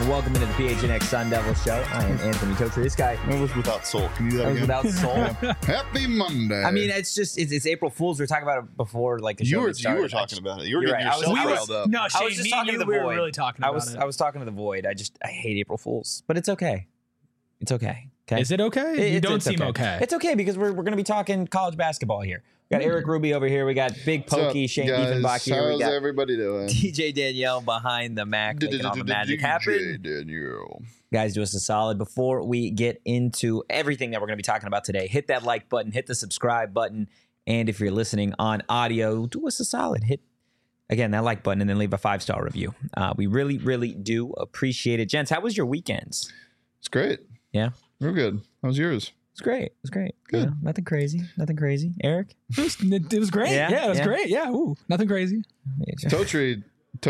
welcome into the PHNX Sun Devil Show. I am Anthony Totri. This guy That was without soul. Can you do that again? without soul. Happy Monday. I mean, it's April Fool's. We were talking about it before, like the show you started. were talking about it. You were You're getting right. yourself I was- riled up. No, Shane, I was just me talking and to you, the we were void. really talking I about was it. I was talking to the void. I hate April Fools, but it's okay. It's okay. Okay. Is it okay? You don't seem okay. It's okay because we're going to be talking college basketball here. We got Eric Ruby over here. We got Big What's up, Pokey, Shane guys? Diefenbach here. We How's got everybody doing? DJ Danielle behind the Mac making all the magic happen. DJ Daniel. Guys, do us a solid before we get into everything that we're going to be talking about today. Hit that like button, hit the subscribe button, and if you're listening on audio, do us a solid. Hit again that like button and then leave a 5-star review. We really, really do appreciate it, gents. How was your weekends? It's great. Yeah, Real good. How was yours? it's great. It was great. Good. You know, nothing crazy. Nothing crazy. Eric, It was great. Yeah, Yeah, it was yeah. great. Yeah, ooh, nothing crazy. Totri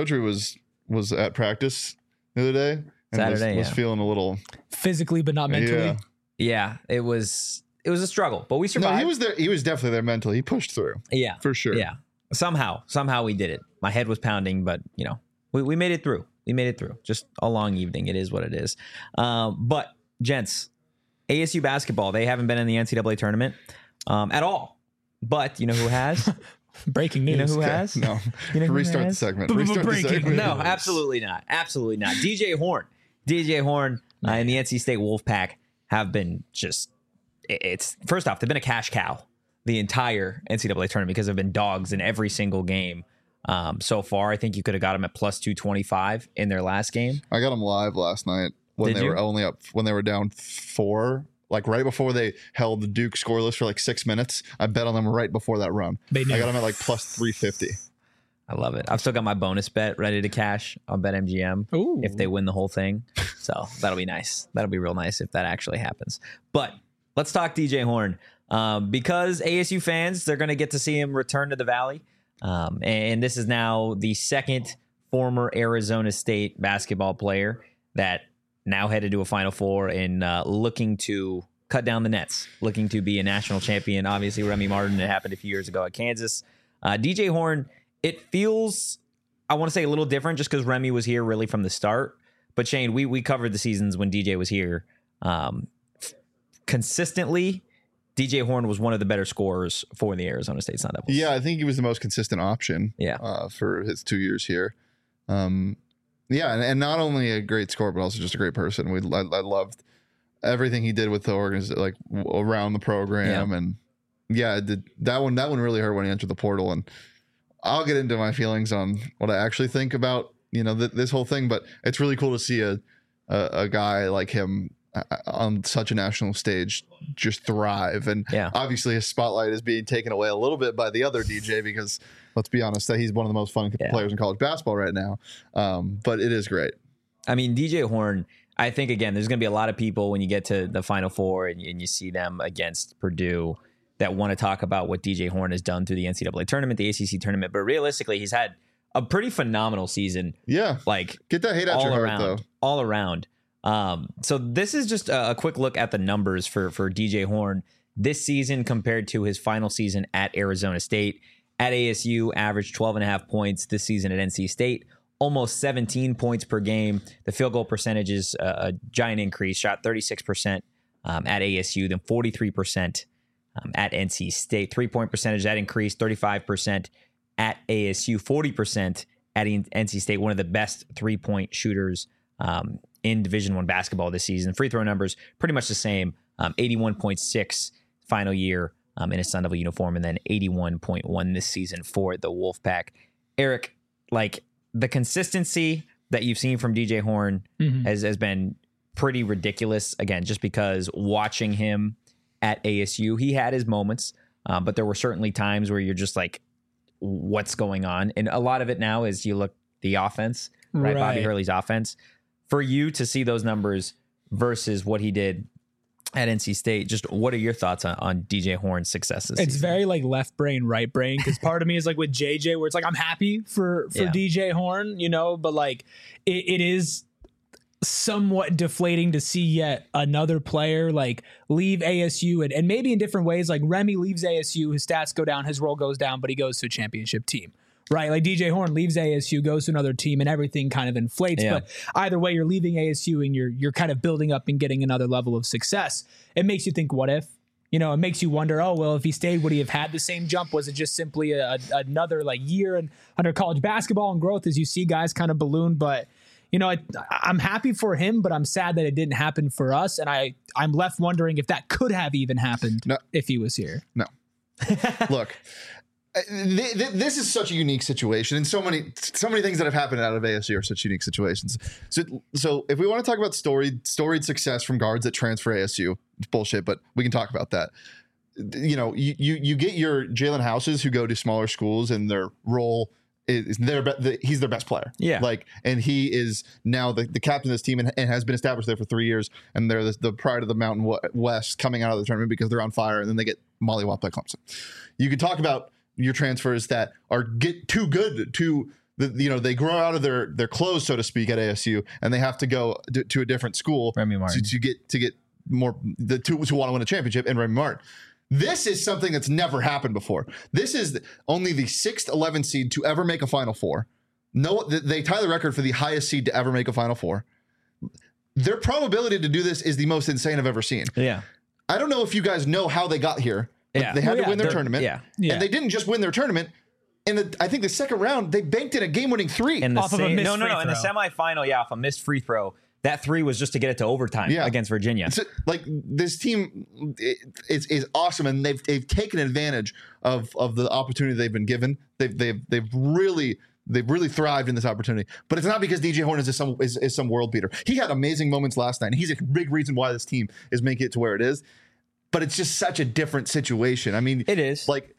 was at practice the other day and Saturday, was yeah. feeling a little. Physically, but not mentally. Yeah. Yeah, it was a struggle, but we No, survived. he was there. He was definitely there mentally. He pushed through Yeah, for sure. yeah. Somehow we did it. My head was pounding, but you know, we made it through. We made it through. Just a long evening. It is what it is. But gents, ASU basketball, they haven't been in the NCAA tournament at all. But you know who has? Breaking You news. know who Okay, has? No. You know who Restart the has? segment. But Restart the breaking segment. No, absolutely not. Absolutely not. DJ Horn and the NC State Wolfpack have been just. It's first off, they've been a cash cow the entire NCAA tournament because they've been dogs in every single game so far. I think you could have got them at plus 225 in their last game. I got them live last night when Did they you? were only up when they were down 4, like right before they held the Duke scoreless for like 6 minutes. I bet on them right before that run. They knew. I got them at like plus 350. I love it. I've still got my bonus bet ready to cash on BetMGM Ooh. if they win the whole thing. So that'll be nice. That'll be real nice if that actually happens. But let's talk DJ Horn because ASU fans, they're going to get to see him return to the Valley. And this is now the second former Arizona State basketball player that now headed to a Final Four and looking to cut down the nets, looking to be a national champion. Obviously, Remy Martin, it happened a few years ago at Kansas. DJ Horn, it feels, I want to say a little different just because Remy was here really from the start. But Shane, we covered the seasons when DJ was here. Consistently, DJ Horn was one of the better scorers for the Arizona State Sun Devils. Yeah, I think he was the most consistent option. Yeah. For his 2 years here. Yeah, and not only a great scorer, but also just a great person. I loved everything he did with the organization, like around the program, and yeah, that one really hurt when he entered the portal. And I'll get into my feelings on what I actually think about this whole thing, but it's really cool to see a guy like him on such a national stage just thrive. And obviously his spotlight is being taken away a little bit by the other DJ because let's be honest, that he's one of the most fun players in college basketball right now. But it is great. I mean, DJ Horn, I think, again, there's going to be a lot of people when you get to the Final Four and you see them against Purdue that want to talk about what DJ Horn has done through the NCAA tournament, the ACC tournament. But realistically, he's had a pretty phenomenal season. Yeah. Like, get that hate out your heart, around, though. All around. So this is just a quick look at the numbers for DJ Horn this season compared to his final season at Arizona State. At ASU, averaged 12.5 points this season at NC State, almost 17 points per game. The field goal percentage is a giant increase, shot 36% at ASU, then 43% at NC State. 3-point percentage, that increased 35% at ASU, 40% at NC State, one of the best 3-point shooters in Division I basketball this season. Free throw numbers, pretty much the same, 81.6 final year in a Sun Devil uniform, and then 81.1 this season for the Wolfpack. Eric, like the consistency that you've seen from DJ Horn has been pretty ridiculous. Again, just because watching him at ASU, he had his moments, but there were certainly times where you're just like, what's going on? And a lot of it now is you look the offense, right? Bobby Hurley's offense. For you to see those numbers versus what he did at NC State, just what are your thoughts on DJ Horn's successes? It's very like left brain, right brain, because part of me is like with JJ, where it's like I'm happy for DJ Horn, but like it is somewhat deflating to see yet another player like leave ASU and maybe in different ways. Like Remy leaves ASU, his stats go down, his role goes down, but he goes to a championship team. right? Like DJ Horne leaves ASU, goes to another team, and everything kind of inflates. Yeah. But either way, you're leaving ASU and you're kind of building up and getting another level of success. It makes you think, what if? You know, it makes you wonder, oh, well, if he stayed, would he have had the same jump? Was it just simply another like year and under college basketball and growth as you see guys kind of balloon? But, you know, I'm happy for him, but I'm sad that it didn't happen for us. And I'm left wondering if that could have even happened if he was here. No. Look, this is such a unique situation, and so many things that have happened out of ASU are such unique situations. So if we want to talk about storied success from guards that transfer ASU, it's bullshit, but we can talk about that. You know, you get your Jalen Houses who go to smaller schools, and their role is he's their best player. Yeah, like, and he is now the captain of this team and has been established there for 3 years, and they're the pride of the Mountain West coming out of the tournament because they're on fire, and then they get mollywopped by Clemson. You could talk about your transfers that get too good to they grow out of their clothes, so to speak, at ASU, and they have to go to a different school to get more to want to win a championship. And Remy Martin, this is something that's never happened before. This is only the 6th 11th seed to ever make a Final Four. No, they tie the record for the highest seed to ever make a Final Four. Their probability to do this is the most insane I've ever seen. Yeah, I don't know if you guys know how they got here. Yeah. They had to win their tournament. Yeah. And they didn't just win their tournament. I think the second round, they banked in a game-winning 3. In the Off of a missed no, free in the throw. semifinal, off a missed free throw. That 3 was just to get it to overtime against Virginia. So, like, this team is awesome, and they've taken advantage of the opportunity they've been given. They've really thrived in this opportunity. But it's not because DJ Horne is some world beater. He had amazing moments last night, and he's a big reason why this team is making it to where it is. But it's just such a different situation. I mean, it is. Like,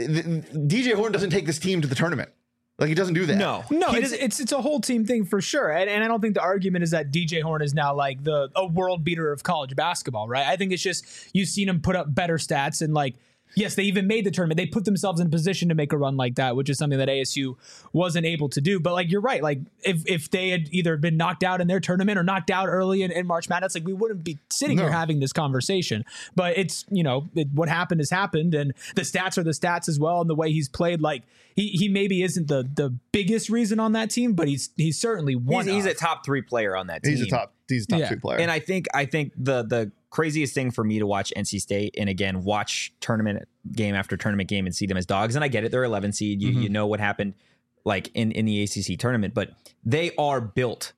DJ Horne doesn't take this team to the tournament. Like, he doesn't do that. No, it's a whole team thing for sure. And I don't think the argument is that DJ Horne is now like a world beater of college basketball, right? I think it's just you've seen him put up better stats, and like, yes, they even made the tournament. They put themselves in a position to make a run like that, which is something that ASU wasn't able to do. But like, you're right. Like, if they had either been knocked out in their tournament or knocked out early in March Madness, like, we wouldn't be sitting here having this conversation. But it's, what happened has happened, and the stats are the stats as well. And the way he's played, like, he maybe isn't the biggest reason on that team, but he's certainly one. He's a top 3 player on that team. He's a top 2 player. And I think the craziest thing for me to watch NC State, and again, watch tournament game after tournament game and see them as dogs. And I get it. They're 11 seed. You know what happened like in the ACC tournament, but they are built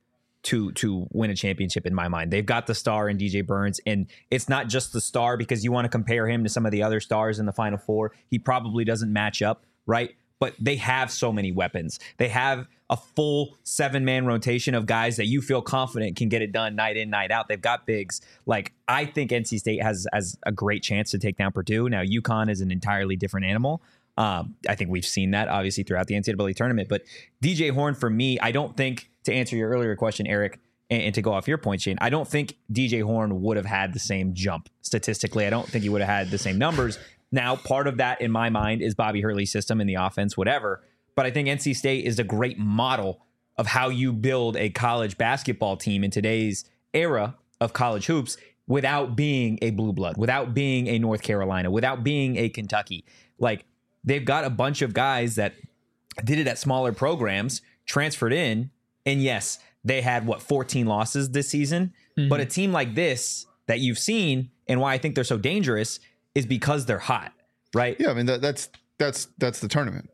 to win a championship in my mind. They've got the star in DJ Burns, and it's not just the star because you want to compare him to some of the other stars in the Final Four. He probably doesn't match up, right? But they have so many weapons. They have a full 7-man rotation of guys that you feel confident can get it done night in, night out. They've got bigs. Like, I think NC State has a great chance to take down Purdue. Now, UConn is an entirely different animal. I think we've seen that, obviously, throughout the NCAA tournament. But DJ Horne, for me, I don't think, to answer your earlier question, Eric, and to go off your point, Shane, I don't think DJ Horne would have had the same jump statistically. I don't think he would have had the same numbers. Now, part of that, in my mind, is Bobby Hurley's system in the offense, whatever. But I think NC State is a great model of how you build a college basketball team in today's era of college hoops without being a blue blood, without being a North Carolina, without being a Kentucky. Like, they've got a bunch of guys that did it at smaller programs, transferred in, and yes, they had, 14 losses this season? Mm-hmm. But a team like this that you've seen, and why I think they're so dangerous, is because they're hot, right? Yeah, I mean, that's the tournament.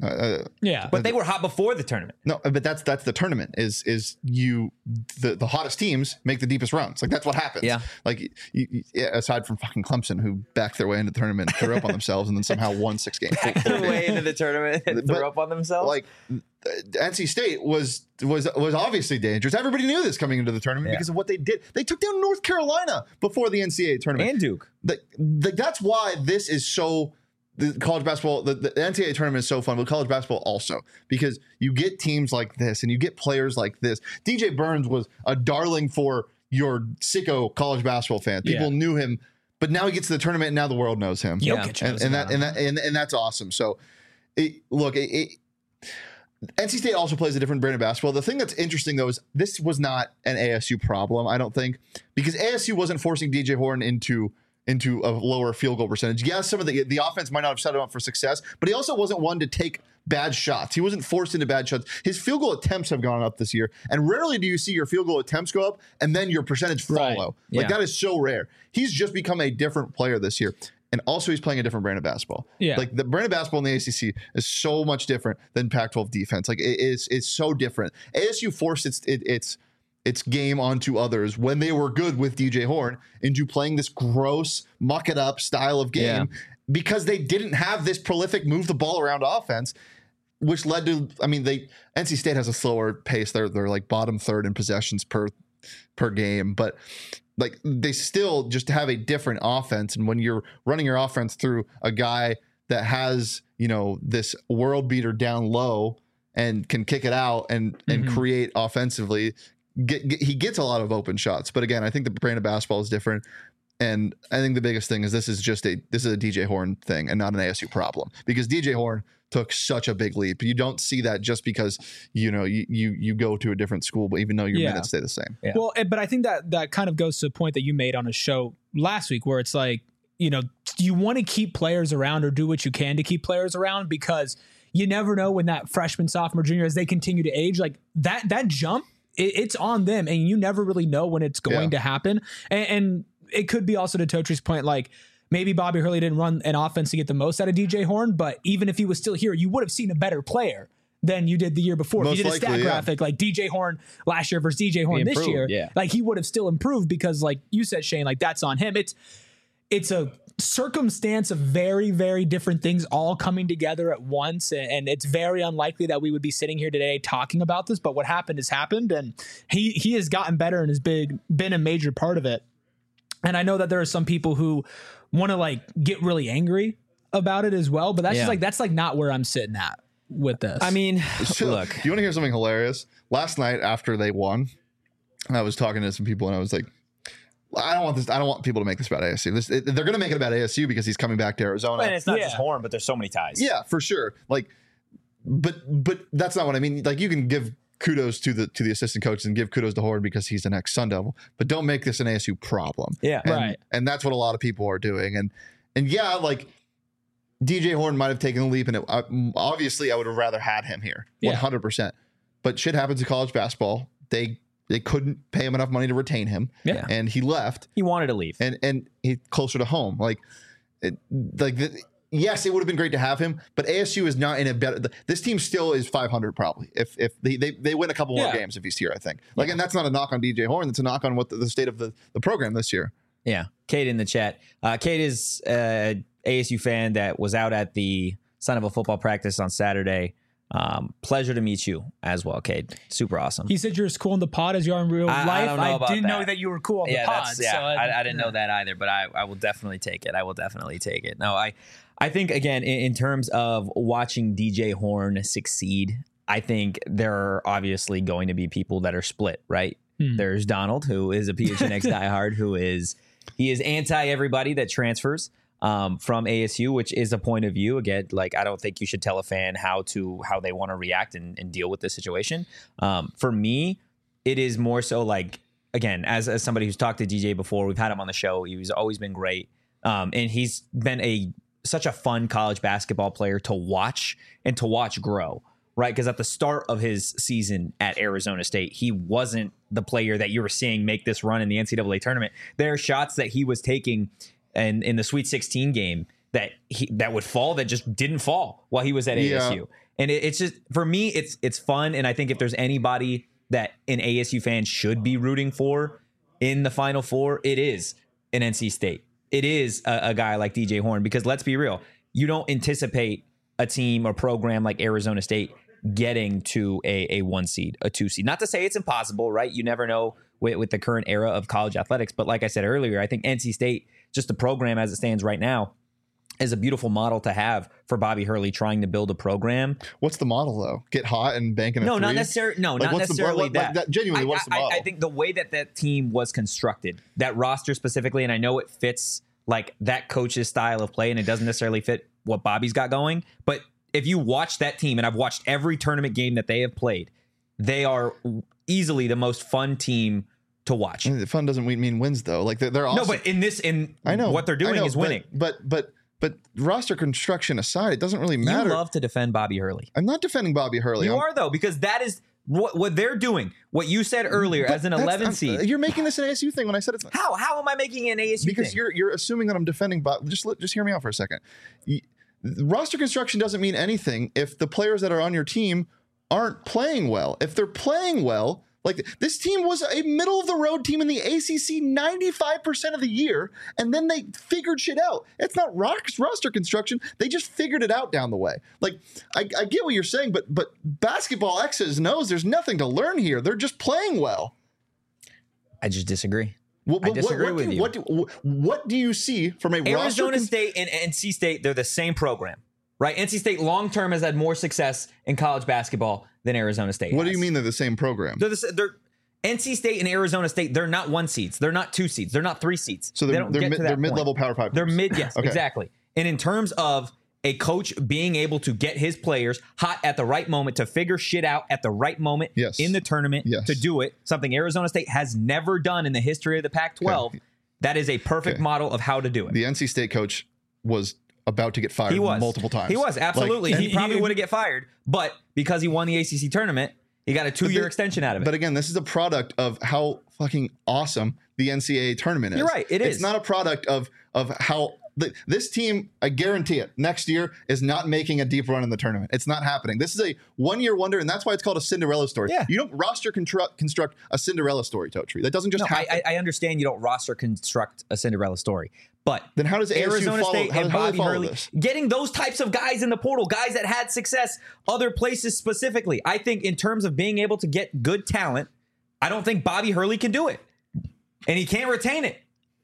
But they were hot before the tournament. No, but that's the tournament. Is the hottest teams make the deepest runs? Like, that's what happens. Yeah. Like, aside from fucking Clemson, who backed their way into the tournament, threw up on themselves, and then somehow won 6 games. Backed their way into the tournament and threw up on themselves. Like, NC State was obviously dangerous. Everybody knew this coming into the tournament because of what they did. They took down North Carolina before the NCAA tournament and Duke. That's why this is so. The college basketball, the NCAA tournament is so fun, but college basketball also, because you get teams like this and you get players like this. DJ Burns was a darling for your sicko college basketball fans. People knew him, but now he gets to the tournament and now the world knows him. And that's awesome. So, NC State also plays a different brand of basketball. The thing that's interesting, though, is this was not an ASU problem, I don't think, because ASU wasn't forcing DJ Horne into into a lower field goal percentage. Yes, some of the offense might not have set him up for success, but he also wasn't one to take bad shots. He wasn't forced into bad shots. His field goal attempts have gone up this year, and rarely do you see your field goal attempts go up and then your percentage follow. Like that is so rare. He's just become a different player this year. And also he's playing a different brand of basketball. Yeah. Like the brand of basketball in the ACC is so much different than Pac-12 defense. Like it's so different. ASU forced its game onto others when they were good with DJ Horne into playing this gross, muck it up style of game because they didn't have this prolific move the ball around offense, which led to, NC State has a slower pace. They're like bottom third in possessions per game, but like they still just have a different offense. And when you're running your offense through a guy that has, this world beater down low and can kick it out and create offensively, he gets a lot of open shots. But again, I think the brand of basketball is different. And I think the biggest thing is this is a DJ Horne thing and not an ASU problem, because DJ Horne took such a big leap. You don't see that just because, you go to a different school, but even though your minutes stay the same. Yeah. Well, but I think that kind of goes to the point that you made on a show last week where it's like, you want to keep players around or do what you can to keep players around, because you never know when that freshman, sophomore, junior, as they continue to age, like that jump, it's on them, and you never really know when it's going to happen. And it could be also to Totri's point, like, maybe Bobby Hurley didn't run an offense to get the most out of DJ Horne, but even if he was still here, you would have seen a better player than you did the year before. Most if you did a stat graphic like DJ Horne last year versus DJ Horne this year, like he would have still improved, because like you said, Shane, like that's on him. It's a circumstance of very, very different things all coming together at once. And it's very unlikely that we would be sitting here today talking about this, but what happened has happened, and he has gotten better and has been a major part of it. And I know that there are some people who want to like get really angry about it as well, but that's just like, that's like not where I'm sitting at with this. I mean, look, do you want to hear something hilarious? Last night after they won, I was talking to some people and I was like, I don't want people to make this about ASU. They're going to make it about ASU because he's coming back to Arizona. And it's not just Horne, but there's so many ties. Yeah, for sure. Like, but that's not what I mean. Like, you can give kudos to the assistant coaches and give kudos to Horne because he's an ex-Sun Devil, but don't make this an ASU problem. Yeah, right. And that's what a lot of people are doing. And yeah, like DJ Horne might have taken the leap, and obviously I would have rather had him here, 100%. But shit happens in college basketball. They couldn't pay him enough money to retain him, and he left. He wanted to leave, and he's closer to home. Yes, it would have been great to have him, but ASU is not in a better. This team still is 500 probably if they win a couple more games if he's here. I think and that's not a knock on DJ Horne. That's a knock on what the state of the program this year. Yeah, Kate in the chat. Kate is a ASU fan that was out at the Sun Devil football practice on Saturday. Pleasure to meet you as well, Kate. Super awesome. He said you're as cool in the pod as you are in real life. I didn't know that you were cool on the pod. I didn't know that either, but I will definitely take it. No, I think, again, in terms of watching DJ Horne succeed, I think there are obviously going to be people that are split, right? There's Donald, who is a PHNX diehard, he is anti everybody that transfers from ASU, which is a point of view. Again, like, I don't think you should tell a fan how they want to react and deal with this situation. For me, it is more so like, again, as somebody who's talked to DJ before, we've had him on the show. He's always been great. And he's been such a fun college basketball player to watch grow, right? Because at the start of his season at Arizona State, he wasn't the player that you were seeing make this run in the NCAA tournament. There are shots that he was taking and in the Sweet 16 game that would fall that just didn't fall while he was at ASU. And it's just, for me, it's fun. And I think if there's anybody that an ASU fan should be rooting for in the Final Four, it is an NC State. It is a guy like DJ Horne, because let's be real, you don't anticipate a team or program like Arizona State getting to a 1 seed, a 2 seed. Not to say it's impossible, right? You never know with the current era of college athletics. But like I said earlier, I think NC State, just the program as it stands right now, is a beautiful model to have for Bobby Hurley trying to build a program. What's the model, though? Get hot and bank in a three? Not necessarily. No, not necessarily that. Genuinely, what's the model? I think the way that team was constructed, that roster specifically, and I know it fits like that coach's style of play, and it doesn't necessarily fit what Bobby's got going. But if you watch that team, and I've watched every tournament game that they have played, they are easily the most fun team to watch. The fun doesn't mean wins though. Like they're awesome. No, but I know what they're doing is winning. But roster construction aside, it doesn't really matter. You love to defend Bobby Hurley. I'm not defending Bobby Hurley. You are though, because that is what they're doing. What you said earlier as an 11 seed. You're making this an ASU thing when I said it's not. How am I making an ASU because thing? you're assuming that I'm defending Bob. Just hear me out for a second. Roster construction doesn't mean anything if the players that are on your team aren't playing well. If they're playing well, like this team was a middle of the road team in the ACC 95% of the year, and then they figured shit out. It's not roster construction. They just figured it out down the way. Like I get what you're saying, but basketball X's knows there's nothing to learn here. They're just playing well. I just disagree. I disagree with you. What do you see from a Arizona State and NC State? They're the same program, right? NC State long term has had more success in college basketball than Arizona State. What do you mean they're the same program? They're NC State and Arizona State. They're not 1 seeds. They're not 2 seeds. They're not 3 seeds. So they're mid-level Power 5. They're mid. Yes, okay. Exactly. And in terms of a coach being able to get his players hot at the right moment to figure shit out at the right moment in the tournament to do it, something Arizona State has never done in the history of the Pac-12. Okay. That is a perfect model of how to do it. The NC State coach was about to get fired multiple times. He was, absolutely. He probably would have get fired, but because he won the ACC tournament, he got a 2-year extension out of it. But again, this is a product of how fucking awesome the NCAA tournament is. You're right, it is. It's not a product of how this team, I guarantee it, next year is not making a deep run in the tournament. It's not happening. This is a one-year wonder, and that's why it's called a Cinderella story. Yeah. You don't roster construct a Cinderella story, Totri. That doesn't just happen. I understand you don't roster construct a Cinderella story, but then how does Arizona State and Bobby Hurley this? Getting those types of guys in the portal, guys that had success other places specifically? I think in terms of being able to get good talent, I don't think Bobby Hurley can do it, and he can't retain it.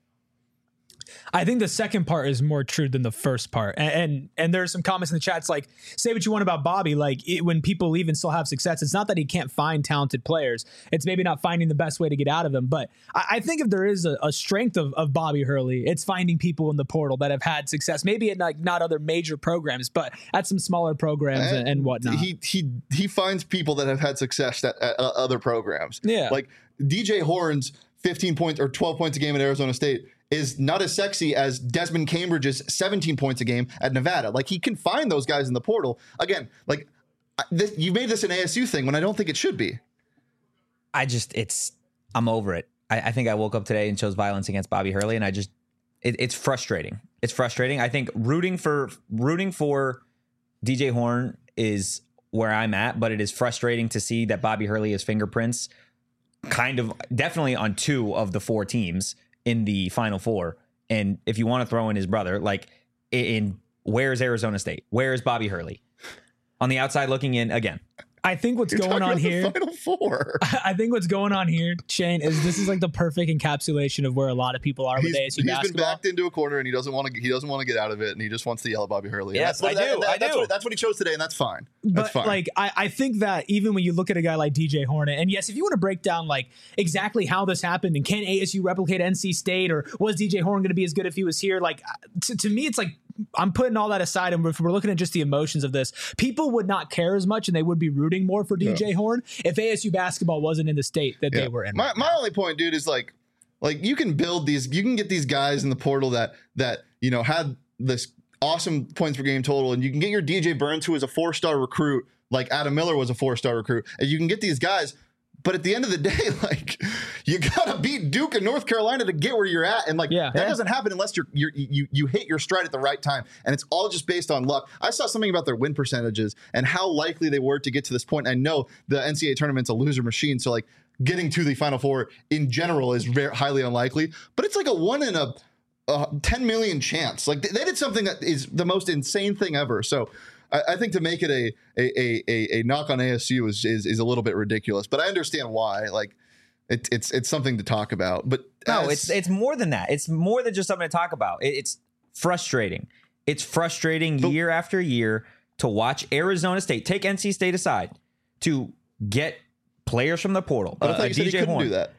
I think the second part is more true than the first part. And there's some comments in the chat. It's like, say what you want about Bobby. Like when people leave and still have success, it's not that he can't find talented players. It's maybe not finding the best way to get out of them. But I think if there is a strength of Bobby Hurley, it's finding people in the portal that have had success. Maybe at like not other major programs, but at some smaller programs and whatnot. He finds people that have had success at other programs. Yeah. Like DJ Horn's 15 points or 12 points a game at Arizona State is not as sexy as Desmond Cambridge's 17 points a game at Nevada. Like he can find those guys in the portal. Again, like you made this an ASU thing when I don't think it should be. I'm over it. I think I woke up today and chose violence against Bobby Hurley, and it's frustrating. It's frustrating. I think rooting for DJ Horn is where I'm at, but it is frustrating to see that Bobby Hurley has fingerprints kind of definitely on 2 of the 4 teams in the Final Four. And if you want to throw in his brother, like where's Arizona State? Where's Bobby Hurley? On the outside looking in again. I think what's going on here, Final Four. I think what's going on here, Shane, is this is like the perfect encapsulation of where a lot of people are with ASU basketball. He's been backed into a corner and he doesn't want to get out of it, and he just wants to yell at Bobby Hurley. Yes, I do. That's what he chose today, and that's fine. But like, I think that even when you look at a guy like DJ Hornet, and yes, if you want to break down like exactly how this happened and can ASU replicate NC State, or was DJ Horn going to be as good if he was here? Like to me, it's like I'm putting all that aside, and if we're looking at just the emotions of this, people would not care as much, and they would be rooting more for DJ Horn if ASU basketball wasn't in the state that they were in. My only point, dude, is like you can build these, you can get these guys in the portal that had this awesome points per game total, and you can get your DJ Burns, who is a 4-star recruit, like Adam Miller was a 4-star recruit, and you can get these guys. But at the end of the day, like you gotta beat Duke and North Carolina to get where you're at, and that doesn't happen unless you hit your stride at the right time, and it's all just based on luck. I saw something about their win percentages and how likely they were to get to this point. I know the NCAA tournament's a loser machine, so like getting to the Final Four in general is very highly unlikely. But it's like a 1 in a 10 million chance. Like they did something that is the most insane thing ever. So I think to make it a knock on ASU is a little bit ridiculous, but I understand why. Like it's something to talk about. But no, it's more than that. It's more than just something to talk about. It's frustrating. It's frustrating year after year to watch Arizona State, take NC State aside, to get players from the portal. But I thought you said he couldn't do that.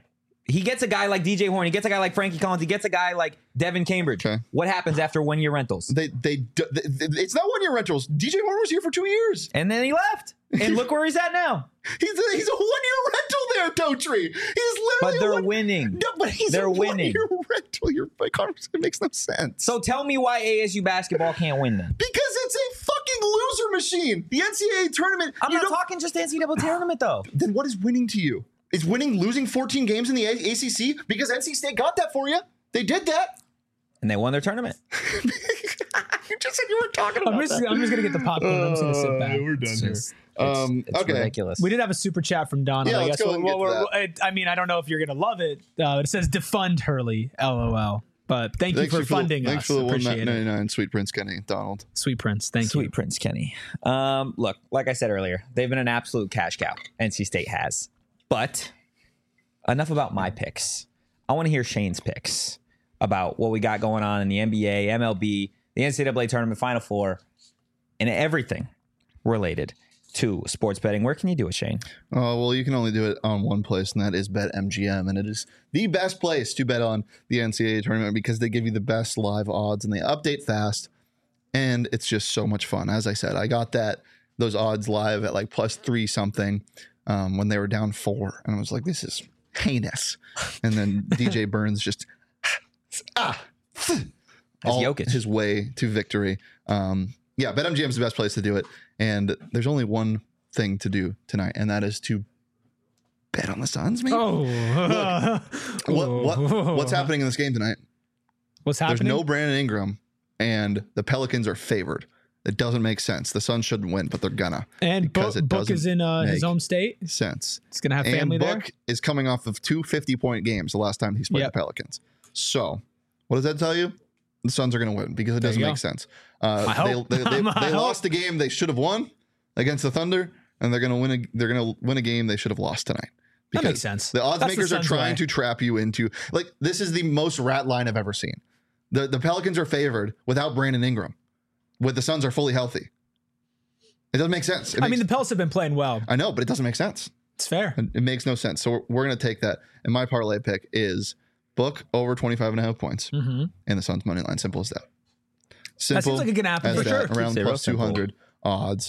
he gets a guy like DJ Horn, he gets a guy like Frankie Collins, he gets a guy like Devin Cambridge. Okay. What happens after 1 year rentals? It's not 1 year rentals. DJ Horn was here for 2 years. And then he left. And look where he's at now. He's a 1 year rental there, Totri. He's literally. But they're winning. No, but they're winning. 1 year rental. Your conversation makes no sense. So tell me why ASU basketball can't win then. Because it's a fucking loser machine. The NCAA tournament. I'm not talking just NCAA tournament though. Then what is winning to you? Is winning losing 14 games in the ACC? Because NC State got that for you. They did that. And they won their tournament. You just said you weren't talking about that. I'm just gonna get the popcorn. I'm just gonna sit back. We're done here. It's Okay. ridiculous. We did have a super chat from Donna. Yeah, I let's guess go and get to I mean, I don't know if you're gonna love it. It says defund Hurley, LOL. But thank you for funding us. Thanks for the Appreciate it. $1.99, Sweet Prince Kenny Donald. Sweet Prince, thank Sweet you. Prince Kenny. Look, like I said earlier, they've been an absolute cash cow. NC State has. But enough about my picks. I want to hear Shane's picks about what we got going on in the NBA, MLB, the NCAA tournament, Final Four, and everything related to sports betting. Where can you do it, Shane? Oh, well, you can only do it on one place, and that is BetMGM. And it is the best place to bet on the NCAA tournament because they give you the best live odds and they update fast. And it's just so much fun. As I said, I got those odds live at like +3 something when they were down 4. And I was like, this is heinous. And then DJ Burns just all Jokic. his way to victory. Yeah, BetMGM is the best place to do it. And there's only one thing to do tonight, and that is to bet on the Suns, maybe? Oh. What's happening in this game tonight? What's happening? There's no Brandon Ingram, and the Pelicans are favored. It doesn't make sense. The Suns shouldn't win, but they're gonna. And because it Book is doesn't in his make home state. sense. He's going to have family And there. Book is coming off of 2 50-point games the last time he's played Yep. the Pelicans. So, what does that tell you? The Suns are going to win because it There doesn't you make go. sense. I hope. They I lost the game they should have won against the Thunder, and they're going to win a game they should have lost tonight. That makes sense. The odds That's the makers are Suns' trying way. to trap you into this is the most rat line I've ever seen. The Pelicans are favored without Brandon Ingram, with the Suns are fully healthy. It doesn't make sense. I mean, the Pels have been playing well. I know, but it doesn't make sense. It's fair. It makes no sense. So we're going to take that. And my parlay pick is Book over 25.5 points and the Suns money line. Simple as that. Simple. That seems like it can happen as for that. sure. Around Zero plus 200 odds.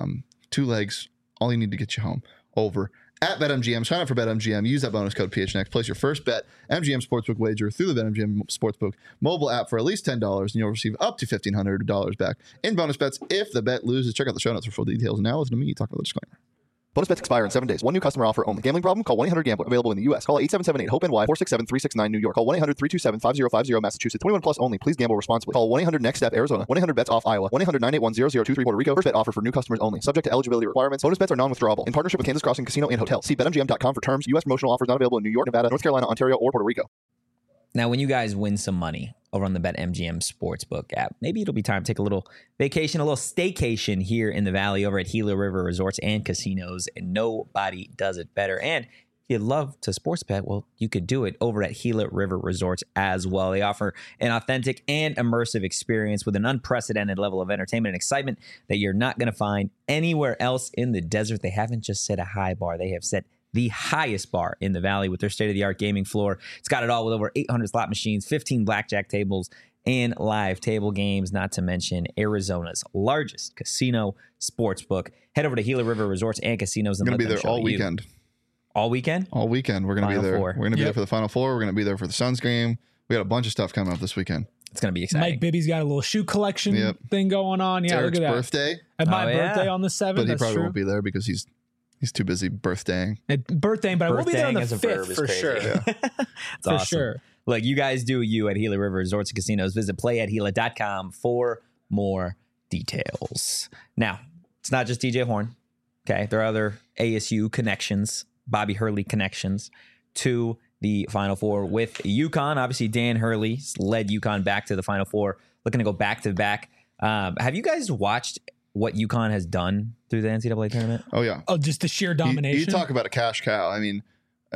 2 legs. All you need to get you home. Over at BetMGM. Sign up for BetMGM. Use that bonus code PHNX. Place your first bet. MGM Sportsbook wager through the BetMGM Sportsbook mobile app for at least $10, and you'll receive up to $1,500 back in bonus bets if the bet loses. Check out the show notes for full details. Now listen to me talk about the disclaimer. Bonus bets expire in 7 days. One new customer offer only. Gambling problem? Call 1-800-GAMBLER. Available in the U.S. Call 877-8-HOPE-NY 467-369 New York. Call 1-800-327-5050 Massachusetts. 21 plus only. Please gamble responsibly. Call 1-800-NEXT-STEP Arizona. 1-800-BETS-OFF Iowa. 1-800-981-0023 Puerto Rico. First bet offer for new customers only. Subject to eligibility requirements. Bonus bets are non-withdrawable. In partnership with Kansas Crossing Casino and Hotel. See BetMGM.com for terms. U.S. promotional offers not available in New York, Nevada, North Carolina, Ontario, or Puerto Rico. Now, when you guys win some money over on the BetMGM Sportsbook app, maybe it'll be time to take a little vacation, a little staycation here in the Valley over at Gila River Resorts and Casinos, and nobody does it better. And if you love to sports bet, well, you could do it over at Gila River Resorts as well. They offer an authentic and immersive experience with an unprecedented level of entertainment and excitement that you're not going to find anywhere else in the desert. They haven't just set a high bar. They have set the highest bar in the Valley with their state-of-the-art gaming floor. It's got it all with over 800 slot machines, 15 blackjack tables, and live table games, not to mention Arizona's largest casino sportsbook. Head over to Gila River Resorts and Casinos and We're let going to be them there show all you. weekend. All weekend? All weekend. We're going to be Final there. Four. We're going to be there Yep. for the Final Four. We're going to be there for the Suns game. We got a bunch of stuff coming up this weekend. It's going to be exciting. Mike Bibby's got a little shoe collection Yep. thing going on. It's Yeah, Eric's look at that. birthday, And my Oh, yeah. birthday on the 7th. but he That's probably true. won't be there because he's too busy birthdaying. Birthday, but I will be there on the Birthdaying as a verb 5th is for crazy. sure. Yeah. It's For awesome. sure. Look, you guys do you at Gila River Resorts and Casinos. Visit playathila.com for more details. Now, it's not just DJ Horn. Okay, there are other ASU connections, Bobby Hurley connections to the Final Four with UConn. Obviously, Dan Hurley led UConn back to the Final Four, looking to go back to back. Have you guys watched what UConn has done through the NCAA tournament? Oh, yeah. Oh, just the sheer domination. You talk about a cash cow. I mean,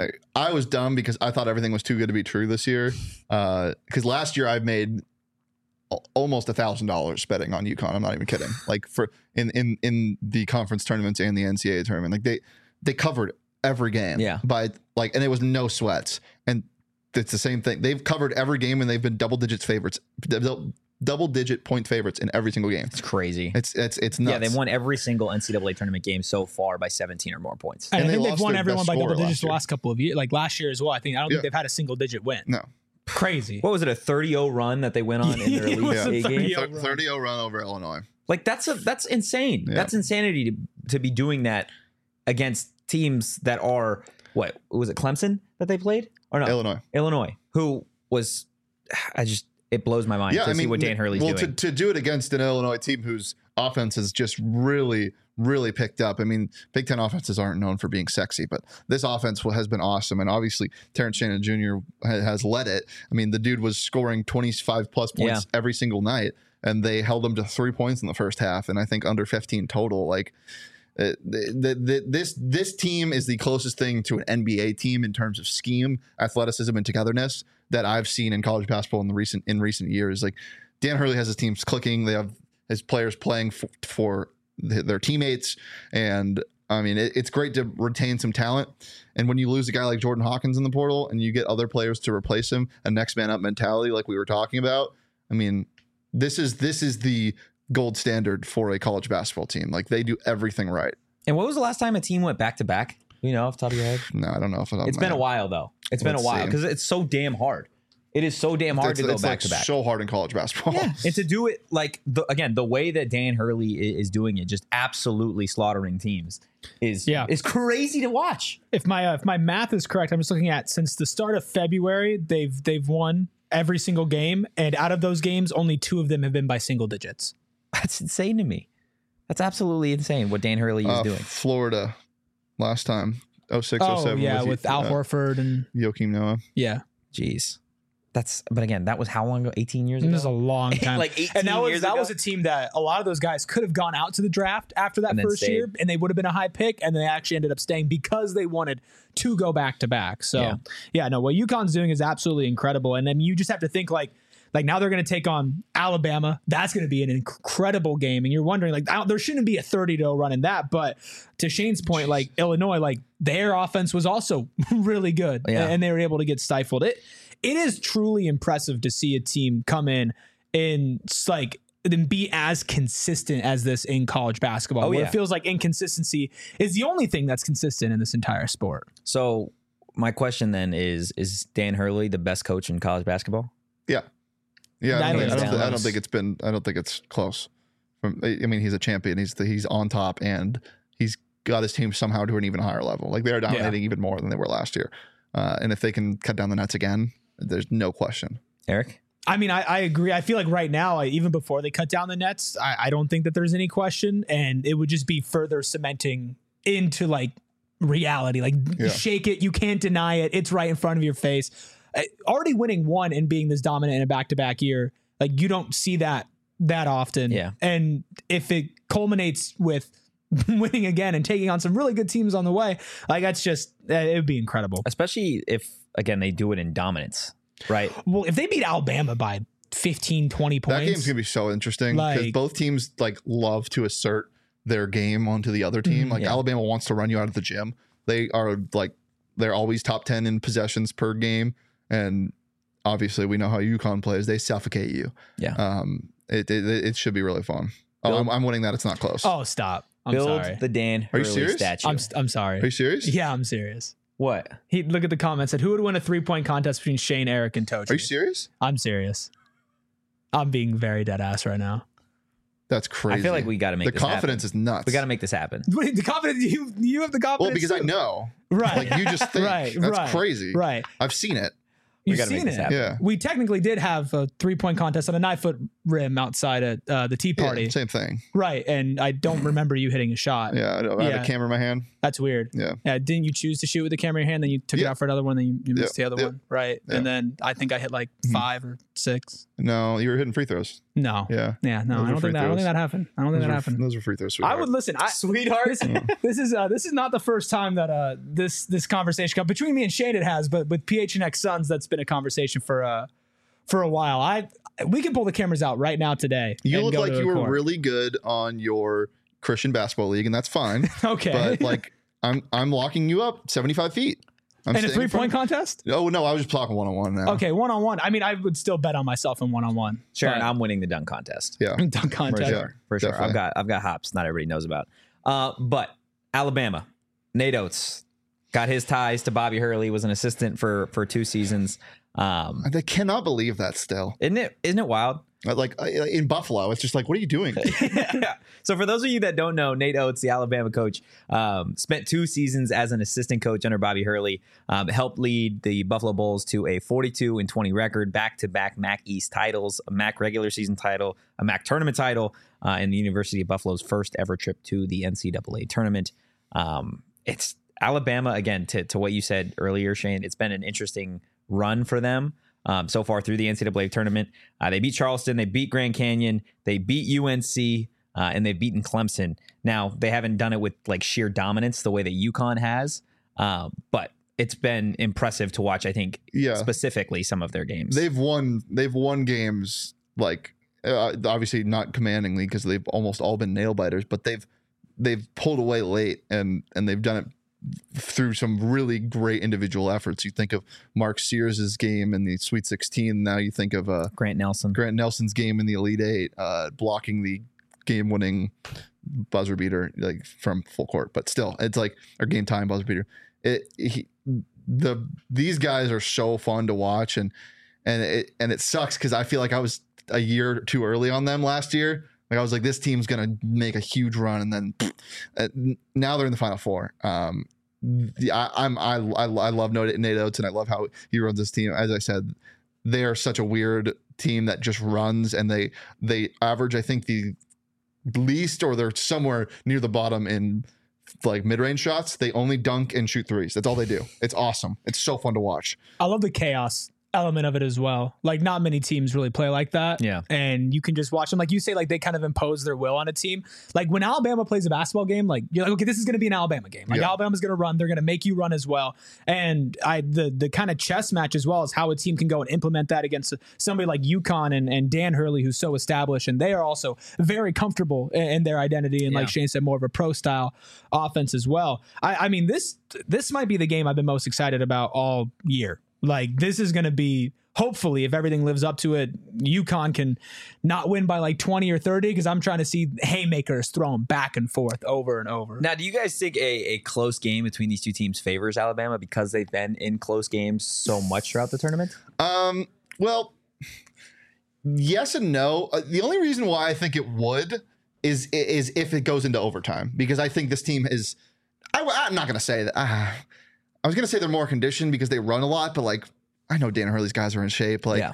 I was dumb because I thought everything was too good to be true this year. Because last year I made almost $1,000 betting on UConn. I'm not even kidding. Like for in the conference tournaments and the NCAA tournament, like they covered every game. Yeah. And it was no sweats. And it's the same thing. They've covered every game and they've been double digit point favorites in every single game. It's crazy. It's nuts. Yeah, they've won every single NCAA tournament game so far by 17 or more points. And I think they they've lost won their everyone best by double scorer digits last the year. last couple of years. Like last year as well. I don't think they've had a single digit win. No. Crazy. What was it, a 30-0 run that they went on in their It was Elite a Eight game? 30-0 30-0 run over Illinois. Like that's insane. Yeah. That's insanity to be doing that against teams that are what was it, Clemson that they played or no? Illinois, who was it blows my mind to see what Dan Hurley's doing. To do it against an Illinois team whose offense is just really, really picked up. I mean, Big Ten offenses aren't known for being sexy, but this offense has been awesome. And obviously, Terrence Shannon Jr. has led it. I mean, the dude was scoring 25 plus points every single night, and they held him to 3 points in the first half, and I think under 15 total. Like, this team is the closest thing to an NBA team in terms of scheme, athleticism, and togetherness that I've seen in college basketball in recent years. Like, Dan Hurley has his teams clicking. They have his players playing for their teammates, and I mean it's great to retain some talent. And when you lose a guy like Jordan Hawkins in the portal, and you get other players to replace him, a next man up mentality like we were talking about. I mean, this is the gold standard for a college basketball team. Like, they do everything right. And what was the last time a team went back to back? You know, off the top of your head? No, I don't know. It's been a while though. It's been a while because it's so damn hard. It is so damn hard to go back to back. So hard in college basketball. Yeah, and to do it like the way that Dan Hurley is doing it, just absolutely slaughtering teams, is crazy to watch. If my math is correct, I'm just looking at since the start of February, they've won every single game, and out of those games, only 2 of them have been by single digits. That's insane to me. That's absolutely insane what Dan Hurley is doing. Florida last time, 06, 07. Yeah, with Al Horford and Joakim Noah. Yeah. Jeez. But again, that was how long ago? 18 years ago? It was a long time. Like 18 and that years ago? was a team that a lot of those guys could have gone out to the draft after that first year, and they would have been a high pick, and they actually ended up staying because they wanted to go back to back. So, what UConn's doing is absolutely incredible. And then you just have to think like now they're going to take on Alabama. That's going to be an incredible game. And you're wondering, like, there shouldn't be a 30-0 run in that. But to Shane's point, like, Illinois, like, their offense was also really good, and they were able to get stifled. It is truly impressive to see a team come in and then be as consistent as this in college basketball. It feels like inconsistency is the only thing that's consistent in this entire sport. So my question then is Dan Hurley the best coach in college basketball? Yeah. Yeah. I don't think think it's close. I mean, he's a champion. He's on top, and he's got his team somehow to an even higher level. Like, they're dominating even more than they were last year. And if they can cut down the nets again, there's no question. Eric? I mean, I agree. I feel like right now, even before they cut down the nets, I don't think that there's any question. And it would just be further cementing into like reality. Like, shake it. You can't deny it. It's right in front of your face. Already winning one and being this dominant in a back-to-back year, like, you don't see that often. Yeah. And if it culminates with winning again and taking on some really good teams on the way, like, that's just, it would be incredible. Especially if, again, they do it in dominance, right? Well, if they beat Alabama by 15, 20 points. That game's going to be so interesting because both teams like love to assert their game onto the other team. Like, Alabama wants to run you out of the gym. They are like, they're always top 10 in possessions per game. And obviously we know how UConn plays. They suffocate you. Yeah. It should be really fun. I'm winning that. It's not close. Oh, stop. I'm Build sorry. the Dan Hurley serious? statue. I'm sorry. Are you serious? Yeah, I'm serious. What? He look at the comments. Said, who would win a 3-point contest between Shane, Eric, and Tochi? Are you serious? I'm serious. I'm being very dead ass right now. That's crazy. I feel like we got to make the this confidence happen. is nuts. We got to make this happen. The confidence, you have the confidence. Well, because too. I know. Right. Like, you just think. Right. That's crazy. Right. I've seen it. You've gotta make seen this it. happen. Yeah. We technically did have a 3-point contest on a 9-foot rim outside at the tea party. Yeah, same thing. Right. And I don't remember you hitting a shot. Yeah. I had a camera in my hand. That's weird. Yeah. Didn't you choose to shoot with the camera in your hand? Then you took it out for another one. Then you missed the other one. Right. Yeah. And then I think I hit like 5 or 6. No, you were hitting free throws. No. Yeah. Yeah. No, Those I don't were free think throws. that happened. I don't think that happened. Those were free throws. I would listen. Sweetheart. This is not the first time that this conversation got between me and Shane. It has, but with PHNX Suns, that's been a conversation for a while. We can pull the cameras out right now today. You and look go like to you the were court. really good on your Christian basketball league, and that's fine. Okay. But like, I'm locking you up 75 feet. I'm In a staying in 3-point front. contest? Oh no, I was just talking 1-on-1 now. Okay, 1-on-1. I mean, I would still bet on myself in 1-on-1. Sharon, I'm winning the dunk contest. Yeah. Dunk contest. For sure. Definitely. I've got hops. Not everybody knows about. But Alabama, Nate Oates got his ties to Bobby Hurley. Was an assistant for 2 seasons. I cannot believe that still. Isn't it wild? Like in Buffalo, it's just like, what are you doing? So for those of you that don't know, Nate Oates, the Alabama coach, spent 2 seasons as an assistant coach under Bobby Hurley, helped lead the Buffalo Bulls to a 42-20 record, back-to-back MAC East titles, a MAC regular season title, a MAC tournament title, and the University of Buffalo's first ever trip to the NCAA tournament. It's Alabama, again, to what you said earlier, Shane, it's been an interesting run for them. So far through the NCAA tournament. They beat Charleston, they beat Grand Canyon, they beat UNC, and they've beaten Clemson. Now, they haven't done it with like sheer dominance the way that UConn has, but it's been impressive to watch, I think, specifically some of their games. They've won games, like obviously not commandingly because they've almost all been nail biters, but they've pulled away late and they've done it through some really great individual efforts. You think of Mark Sears' game in the Sweet 16. Now you think of Grant Nelson's game in the Elite Eight, blocking the game-winning buzzer beater like from full court. But still, it's like our game-time buzzer beater. These guys are so fun to watch, and it sucks because I feel like I was a year too early on them last year. Like I was like, this team's gonna make a huge run, and then now they're in the Final Four. I love Nate Oates, and I love how he runs this team. As I said, they are such a weird team that just runs, and they average, I think, the least, or they're somewhere near the bottom in like mid-range shots. They only dunk and shoot threes. That's all they do. It's awesome. It's so fun to watch. I love the chaos element of it as well. Like not many teams really play like that. Yeah. And you can just watch them. Like you say, like they kind of impose their will on a team. Like when Alabama plays a basketball game, like you're like, okay, this is going to be an Alabama game. Like Alabama's going to run. They're going to make you run as well. And the kind of chess match as well is how a team can go and implement that against somebody like UConn and Dan Hurley, who's so established. And they are also very comfortable in their identity. And like Shane said, more of a pro style offense as well. I mean, this might be the game I've been most excited about all year. Like this is going to be, hopefully, if everything lives up to it, UConn can not win by like 20 or 30 because I'm trying to see haymakers thrown back and forth over and over. Now, do you guys think a close game between these two teams favors Alabama because they've been in close games so much throughout the tournament? Well, yes and no. The only reason why I think it would is if it goes into overtime, because I think this team is. I'm not going to say that. I was going to say they're more conditioned because they run a lot, but like I know Dan Hurley's guys are in shape. Like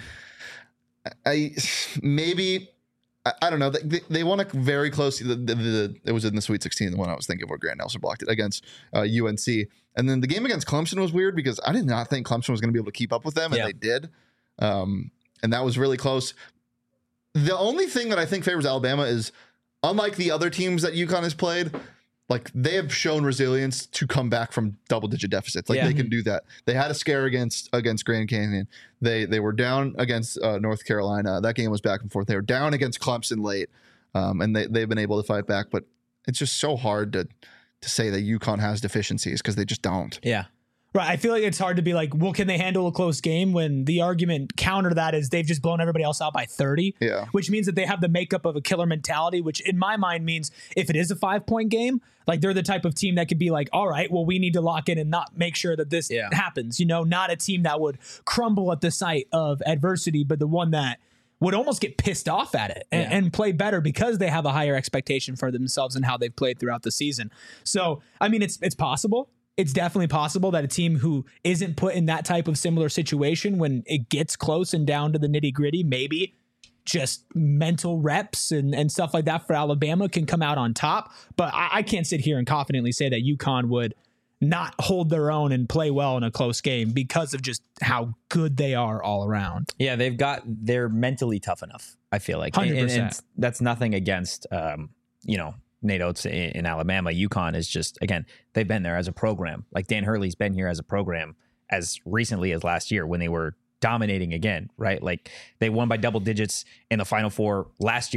I don't know. They won a very close. It was in the Sweet 16, the one I was thinking where Grant Nelson blocked it against UNC. And then the game against Clemson was weird because I did not think Clemson was going to be able to keep up with them, and they did. And that was really close. The only thing that I think favors Alabama is, unlike the other teams that UConn has played, like they have shown resilience to come back from double-digit deficits. Like they can do that. They had a scare against Grand Canyon. They were down against North Carolina. That game was back and forth. They were down against Clemson late, and they've been able to fight back. But it's just so hard to say that UConn has deficiencies because they just don't. Yeah. Right. I feel like it's hard to be like, well, can they handle a close game when the argument counter to that is they've just blown everybody else out by 30, which means that they have the makeup of a killer mentality, which in my mind means if it is a 5-point game, like they're the type of team that could be like, all right, well, we need to lock in and not make sure that this happens, not a team that would crumble at the sight of adversity, but the one that would almost get pissed off at it and play better because they have a higher expectation for themselves and how they've played throughout the season. So, I mean, it's possible. It's definitely possible that a team who isn't put in that type of similar situation when it gets close and down to the nitty gritty, maybe just mental reps and stuff like that for Alabama can come out on top. But I can't sit here and confidently say that UConn would not hold their own and play well in a close game because of just how good they are all around. Yeah, they're mentally tough enough, I feel like. 100%. And that's nothing against, Nate Oates in Alabama. UConn is just, again, they've been there as a program. Like Dan Hurley's been here as a program as recently as last year when they were dominating again, right? Like they won by double digits in the Final Four last year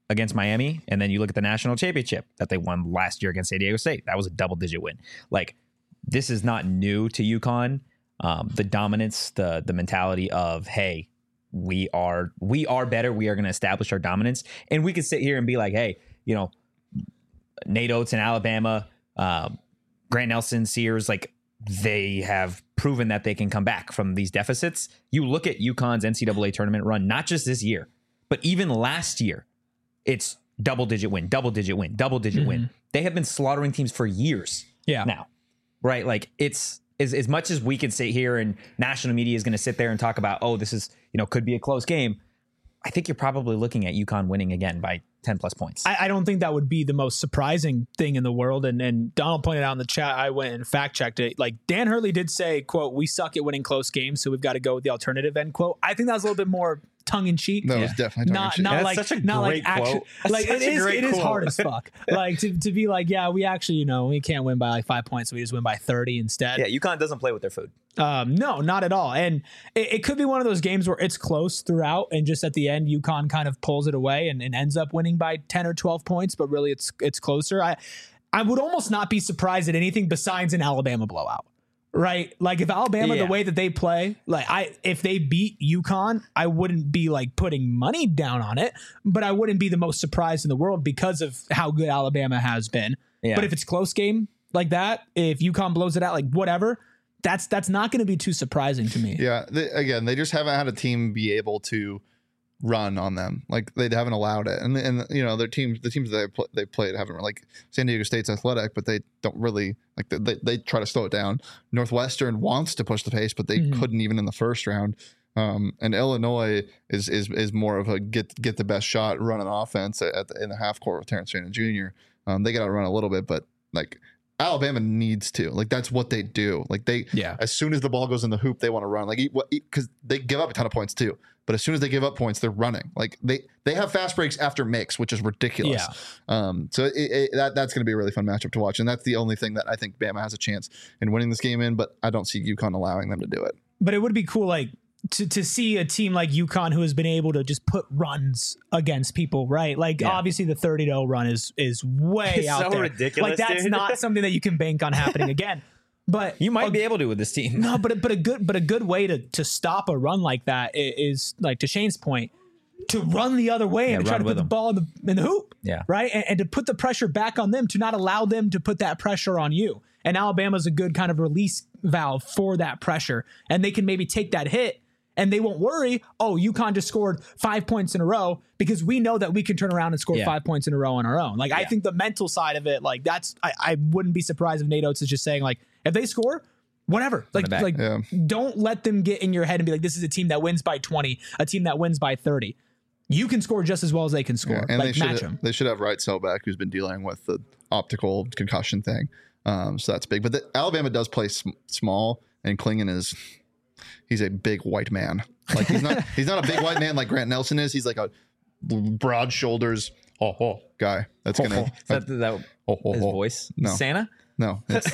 against Miami, and then you look at the national championship that they won last year against San Diego State. That was a double-digit win. Like, this is not new to UConn. The dominance, the mentality of, hey, we are better. We are going to establish our dominance. And we could sit here and be like, hey, Nate Oates in Alabama, Grant Nelson, Sears, like, they have proven that they can come back from these deficits. You look at UConn's NCAA tournament run, not just this year, but even last year, it's double-digit win. Win. They have been slaughtering teams for years now, right? Like, it's as much as we can sit here and national media is going to sit there and talk about, oh, this is, could be a close game. I think you're probably looking at UConn winning again by 10 plus points. I don't think that would be the most surprising thing in the world. And Donald pointed out in the chat, I went and fact checked it. Like, Dan Hurley did say, quote, "We suck at winning close games, so we've got to go with the alternative," end quote. I think that was a little bit more tongue in cheek. No, it's definitely tongue in cheek. Not That's like, such a not great like action. quote. Like, That's it such a great is quote. hard as fuck. Like, to be like, yeah, we actually, we can't win by like 5 points. So we just win by 30 instead. Yeah, UConn doesn't play with their food. No, not at all. And it could be one of those games where it's close throughout, and just at the end, UConn kind of pulls it away and ends up winning by 10 or 12 points, but really it's closer. I would almost not be surprised at anything besides an Alabama blowout, right? Like, if Alabama, the way that they play, if they beat UConn, I wouldn't be like putting money down on it, but I wouldn't be the most surprised in the world because of how good Alabama has been. Yeah. But if it's a close game like that, if UConn blows it out, like whatever, that's not going to be too surprising to me. Yeah. They just haven't had a team be able to run on them. Like, they haven't allowed it. And their teams, the teams that they played haven't, like, San Diego State's athletic, but they don't really, like, they try to slow it down. Northwestern wants to push the pace, but they couldn't even in the first round. And Illinois is more of a get the best shot, run an offense in the half court with Terrence Shannon Jr. They got to run a little bit, but like, Alabama needs to, like, that's what they do. Like, as soon as the ball goes in the hoop, they want to run, like, because they give up a ton of points too. But as soon as they give up points, they're running. Like, they have fast breaks after makes, which is ridiculous. Yeah. So that's going to be a really fun matchup to watch. And that's the only thing that I think Bama has a chance in winning this game in, but I don't see UConn allowing them to do it. But it would be cool, like, to see a team like UConn who has been able to just put runs against people, right? Like, obviously the 30-0 run is way out so there. ridiculous, like, that's dude. not something that you can bank on happening again. But You might be able to with this team. no, but a good way to stop a run like that is, like, to Shane's point, to run the other way and to try to put the ball in the hoop. Yeah. Right. And to put the pressure back on them, to not allow them to put that pressure on you. And Alabama's a good kind of release valve for that pressure. And they can maybe take that hit and they won't worry, oh, UConn just scored 5 points in a row, because we know that we can turn around and score 5 points in a row on our own. Like, I think the mental side of it, like, I wouldn't be surprised if Nate Oates is just saying, like, if they score, whatever. Like, don't let them get in your head and be like, this is a team that wins by 20, a team that wins by 30. You can score just as well as they can score. And like, match them. They should have Wright Selbeck, who's been dealing with the optical concussion thing. So that's big. But Alabama does play small, and Klingon he's a big white man. Like, he's not a big white man like Grant Nelson is. He's like a broad shoulders guy. That's gonna Is that his voice? No. Santa? No, it's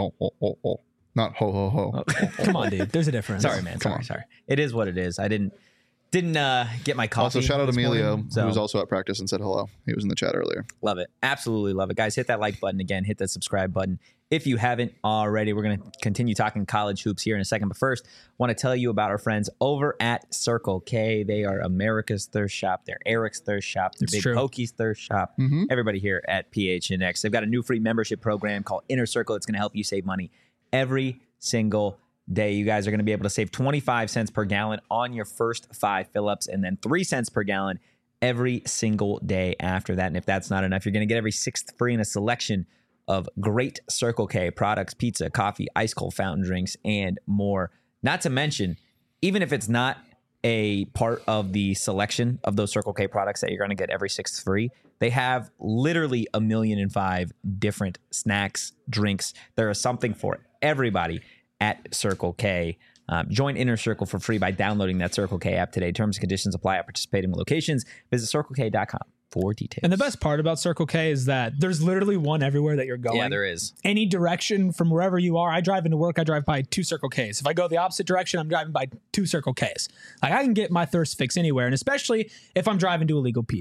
not ho ho ho. Come on, dude. There's a difference. Sorry, man. Sorry. It is what it is. I didn't get my coffee. Also, shout out this Emilio, morning, so who was also at practice and said hello. He was in the chat earlier. love it. Absolutely love it. Guys, hit that like button again. Hit that subscribe button if you haven't already. We're going to continue talking college hoops here in a second. But first, want to tell you about our friends over at Circle K. They are America's thirst shop. They're Eric's thirst shop. They're Big Pokey's thirst shop. Everybody here at PHNX. They've got a new free membership program called Inner Circle. It's going to help you save money every single day. You guys are going to be able to save 25 cents per gallon on your first 5 fill-ups, and then 3 cents per gallon every single day after that. And if that's not enough, you're going to get every 6th free in a selection of great Circle K products, pizza, coffee, ice cold fountain drinks, and more. Not to mention, even if it's not a part of the selection of those Circle K products that you're going to get every 6th free, they have literally 1,000,005 different snacks, drinks. There is something for everybody at Circle K. Join Inner Circle for free by downloading that Circle K app today. Terms and conditions apply at participating locations. Visit CircleK.com for details. And the best part about Circle K is that there's literally one everywhere that you're going. Yeah, there is. Any direction from wherever you are. I drive into work, I drive by 2 Circle Ks. If I go the opposite direction, I'm driving by 2 Circle Ks. Like, I can get my thirst fix anywhere, and especially if I'm driving to Illegal Pete's.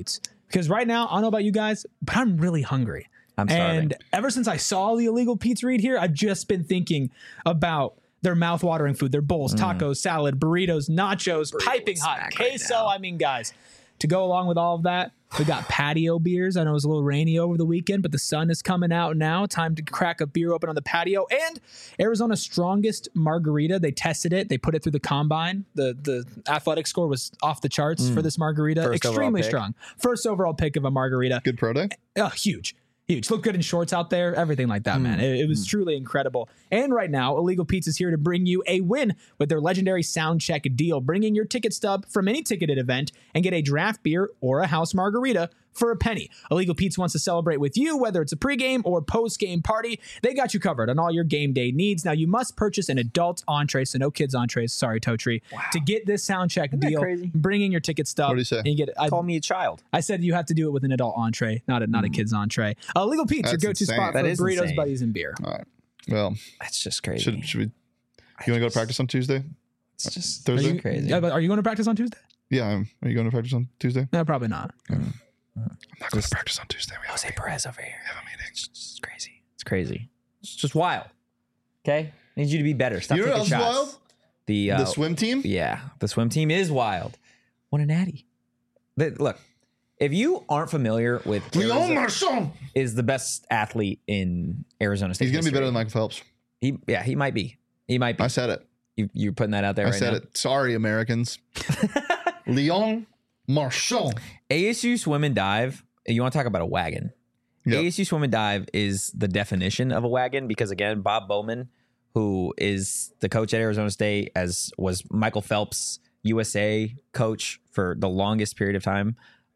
Because right now, I don't know about you guys, but I'm really hungry. I'm starving. And ever since I saw the illegal Pete's Read here, I've just been thinking about their mouth-watering food, their bowls, tacos, salad, burritos, nachos, piping hot, queso. I mean, guys, to go along with all of that, we got patio beers. I know it was a little rainy over the weekend, but the sun is coming out now. Time to crack a beer open on the patio. And Arizona's strongest margarita. They tested it. They put it through the combine. The athletic score was off the charts for this margarita. First Extremely overall pick. strong. First overall pick of a margarita. Good pro day. Huge. Look good in shorts out there, everything like that, man. It was truly incredible. And right now, Illegal Pete's is here to bring you a win with their legendary sound check deal. Bring in your ticket stub from any ticketed event and get a draft beer or a house margarita for a penny. Illegal Pete's wants to celebrate with you, whether it's a pregame or postgame party. They got you covered on all your game day needs. Now, you must purchase an adult entree, so no kids entrees. Sorry, Totri. Wow. To get this sound check deal, crazy? bring in your ticket stub. What do you say? And you get it. Call me a child. I said you have to do it with an adult entree, not a kid's entree. Illegal Pete's, your That's go-to insane. spot That for is burritos, insane. buddies, and beer. All right. Well, That's just crazy. should we? You want to go to practice on Tuesday? It's just Thursday? crazy. Yeah, but are you going to practice on Tuesday? Yeah. Are you going to practice on Tuesday? No, probably not. I'm not going to practice on Tuesday. We have Jose Perez over here. a meeting. It's just crazy. It's crazy. It's just wild. Okay? Need you to be better. Stop You know taking what else is shots. wild? The The swim team. Yeah, the swim team is wild. What a natty. Look, if you aren't familiar with Leon Arizona, Marchand. is the best athlete in Arizona State. He's going to be better history. than Michael Phelps. He might be. He might be. I said it. You're putting that out there I right said now. it. Sorry, Americans. Leon Marchand. ASU swim and dive. You want to talk about a wagon? Yep. ASU swim and dive is the definition of a wagon because again, Bob Bowman, who is the coach at Arizona State, as was Michael Phelps' USA coach for the longest period of time.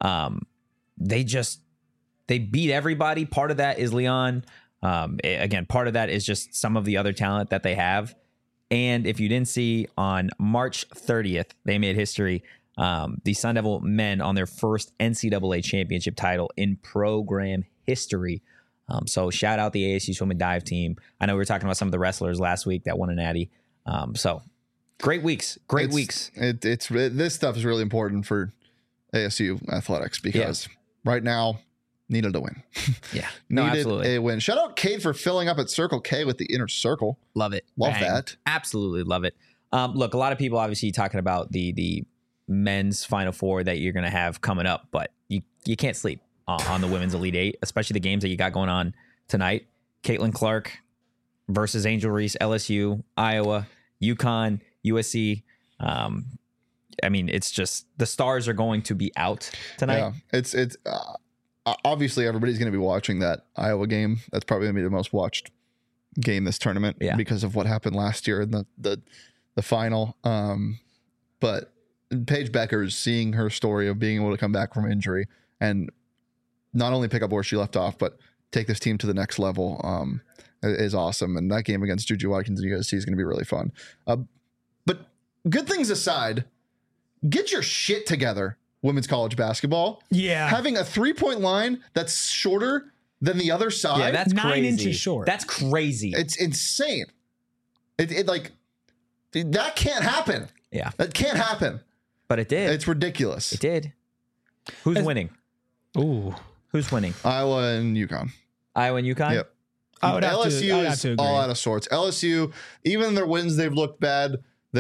They beat everybody. Part of that is Leon. Again, part of that is just some of the other talent that they have. And if you didn't see, on March 30th, they made history. The Sun Devil men on their first NCAA championship title in program history. So shout out the ASU swim and dive team. I know we were talking about some of the wrestlers last week that won a natty. So great weeks. This stuff is really important for ASU athletics because right now needed a win. Yeah. No, Needed absolutely. a win. Shout out Cade for filling up at Circle K with the inner circle. Love it. Love Bang. that. Absolutely love it. Look, a lot of people obviously talking about the men's Final Four that you're going to have coming up, but you can't sleep on the women's Elite Eight, especially the games that you got going on tonight. Caitlin Clark versus Angel Reese, LSU, Iowa, UConn, USC. I mean, it's just the stars are going to be out tonight. Yeah, it's obviously everybody's going to be watching that Iowa game. That's probably going to be the most watched game this tournament because of what happened last year in the final. But Paige Becker's seeing her story of being able to come back from injury and not only pick up where she left off, but take this team to the next level is awesome. And that game against Juju Watkins and USC is going to be really fun. But good things aside, get your shit together, women's college basketball. Yeah. Having a 3-point line that's shorter than the other side. Yeah, that's 9 crazy. inches short. That's crazy. It's insane. It like that can't happen. Yeah, That can't happen. but it did. It's ridiculous. It did. Who's winning? Ooh. Who's winning? Iowa and UConn. Iowa and UConn? Yep. I would have to LSU is agree. all out of sorts. LSU, even in their wins, they've looked bad.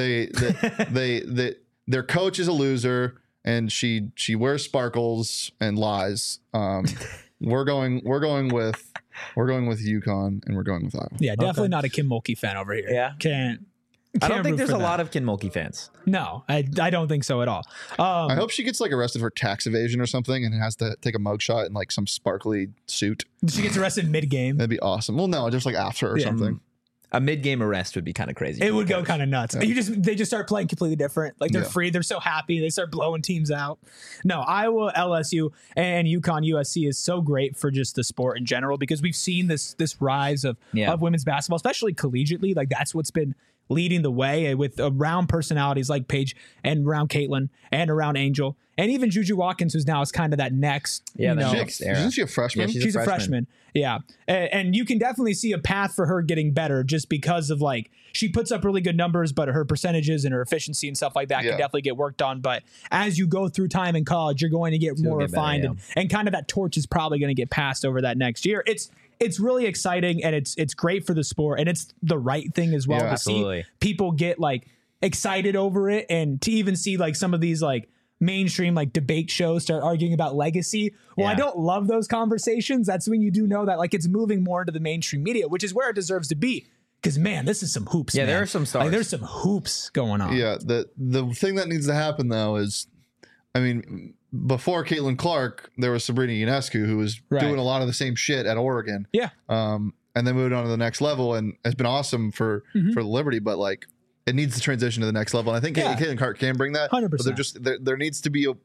Their coach is a loser, and she wears sparkles and lies. We're going with UConn, and we're going with Iowa. Yeah, definitely not a Kim Mulkey fan over here. Yeah. I don't think there's a lot of Kin Mulkey fans. No, I don't think so at all. I hope she gets like arrested for tax evasion or something and has to take a mugshot in like some sparkly suit. She gets arrested mid-game. That'd be awesome. Well, no, just like after or something. A mid-game arrest would be kind of crazy. It would go kind of nuts. They just start playing completely different. Like they're Yeah. free. They're so happy. They start blowing teams out. No, Iowa, LSU, and UConn, USC is so great for just the sport in general because we've seen this rise of women's basketball, especially collegiately. Like that's what's been leading the way with around personalities like Paige and around Caitlin and around Angel and even Juju Watkins, who's now is kind of that next. Next era. Isn't she a freshman? Yeah, She's a freshman. Yeah. And you can definitely see a path for her getting better just because of like, she puts up really good numbers, but her percentages and her efficiency and stuff like that can definitely get worked on. But as you go through time in college, you're going to get more refined and kind of that torch is probably going to get passed over that next year. It's really exciting and it's great for the sport and it's the right thing as well to see people get like excited over it and to even see like some of these like mainstream like debate shows start arguing about legacy. Well, I don't love those conversations. That's when you do know that like it's moving more into the mainstream media, which is where it deserves to be. Because man, this is some hoops. Yeah, man. there are some stars. Like, there's some hoops going on. Yeah, the thing that needs to happen though is, I mean, before Caitlin Clark, there was Sabrina Ionescu who was doing a lot of the same shit at Oregon. Yeah. And then moved on to the next level and has been awesome for Liberty, but like it needs to transition to the next level. And I think Caitlin Clark can bring that. 100%. But there needs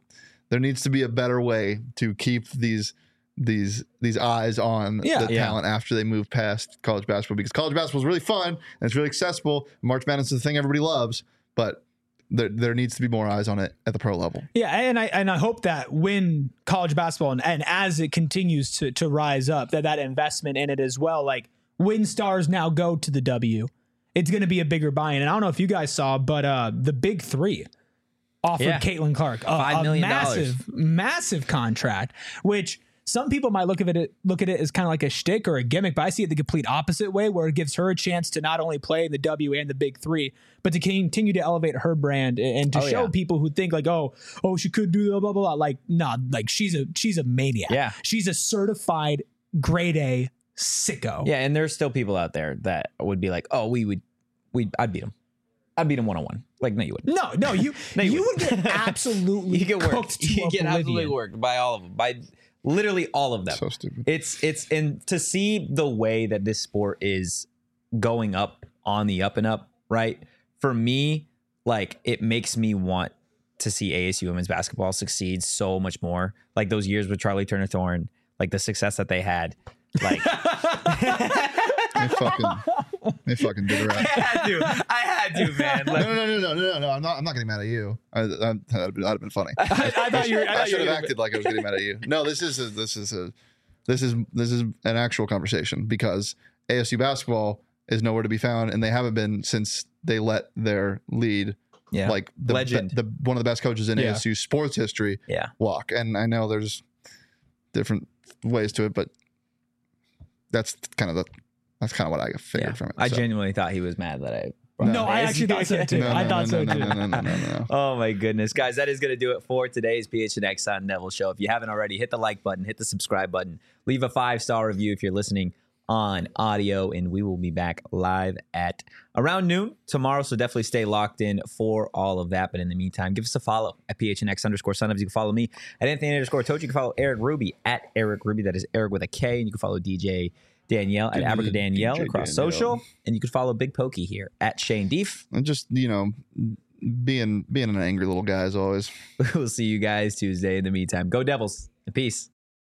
to be a better way to keep these eyes on the talent after they move past college basketball, because college basketball is really fun and it's really accessible. March Madness is the thing everybody loves, but there needs to be more eyes on it at the pro level. Yeah, and I hope that when college basketball and as it continues to rise up, that investment in it as well, like when stars now go to the W, it's going to be a bigger buy-in. And I don't know if you guys saw, but the Big Three offered Caitlin Clark $5 million. massive contract, which some people might look at it as kind of like a shtick or a gimmick, but I see it the complete opposite way, where it gives her a chance to not only play in the W and the Big Three, but to continue to elevate her brand and to show people who think like, oh, she could do blah, blah, blah. Like, nah, like she's a maniac. Yeah. She's a certified grade A sicko. Yeah. And there's still people out there that would be like, oh, I'd beat him. I'd beat him one-on-one. Like, no, you wouldn't. No, you would get absolutely you get worked. cooked to You get oblivion. absolutely worked by all of them. By literally all of them. So stupid. It's and to see the way that this sport is going up on the up and up, right? For me, like it makes me want to see ASU women's basketball succeed so much more. Like those years with Charlie Turner Thorne, like the success that they had. Like they fucking did it right. I had to, man. Like, No. I'm not getting mad at you. That'd have been funny. I should have acted like I was getting mad at you. No, this is an actual conversation, because ASU basketball is nowhere to be found, and they haven't been since they let their lead, like legend, one of the best coaches in ASU sports history, walk. And I know there's different ways to it, but that's kind of what I figured from it. I genuinely thought he was mad that I. No, I actually thought so too. I thought so too. No. Oh my goodness, guys, that is going to do it for today's PHNX Sun Devil Show. If you haven't already, hit the like button, hit the subscribe button, leave a 5-star review if you're listening on audio, and we will be back live at around noon tomorrow. So definitely stay locked in for all of that. But in the meantime, give us a follow at PHNX_Sun. You can follow me at Anthony_Toad. You can follow Eric Ruby at Eric Ruby. That is Eric with a K. And you can follow DJ Danielle at Abrica Danielle across social. And you can follow Big Pokey here at Shane Deef. And just, being an angry little guy as always. We'll see you guys Tuesday. In the meantime, go Devils. Peace.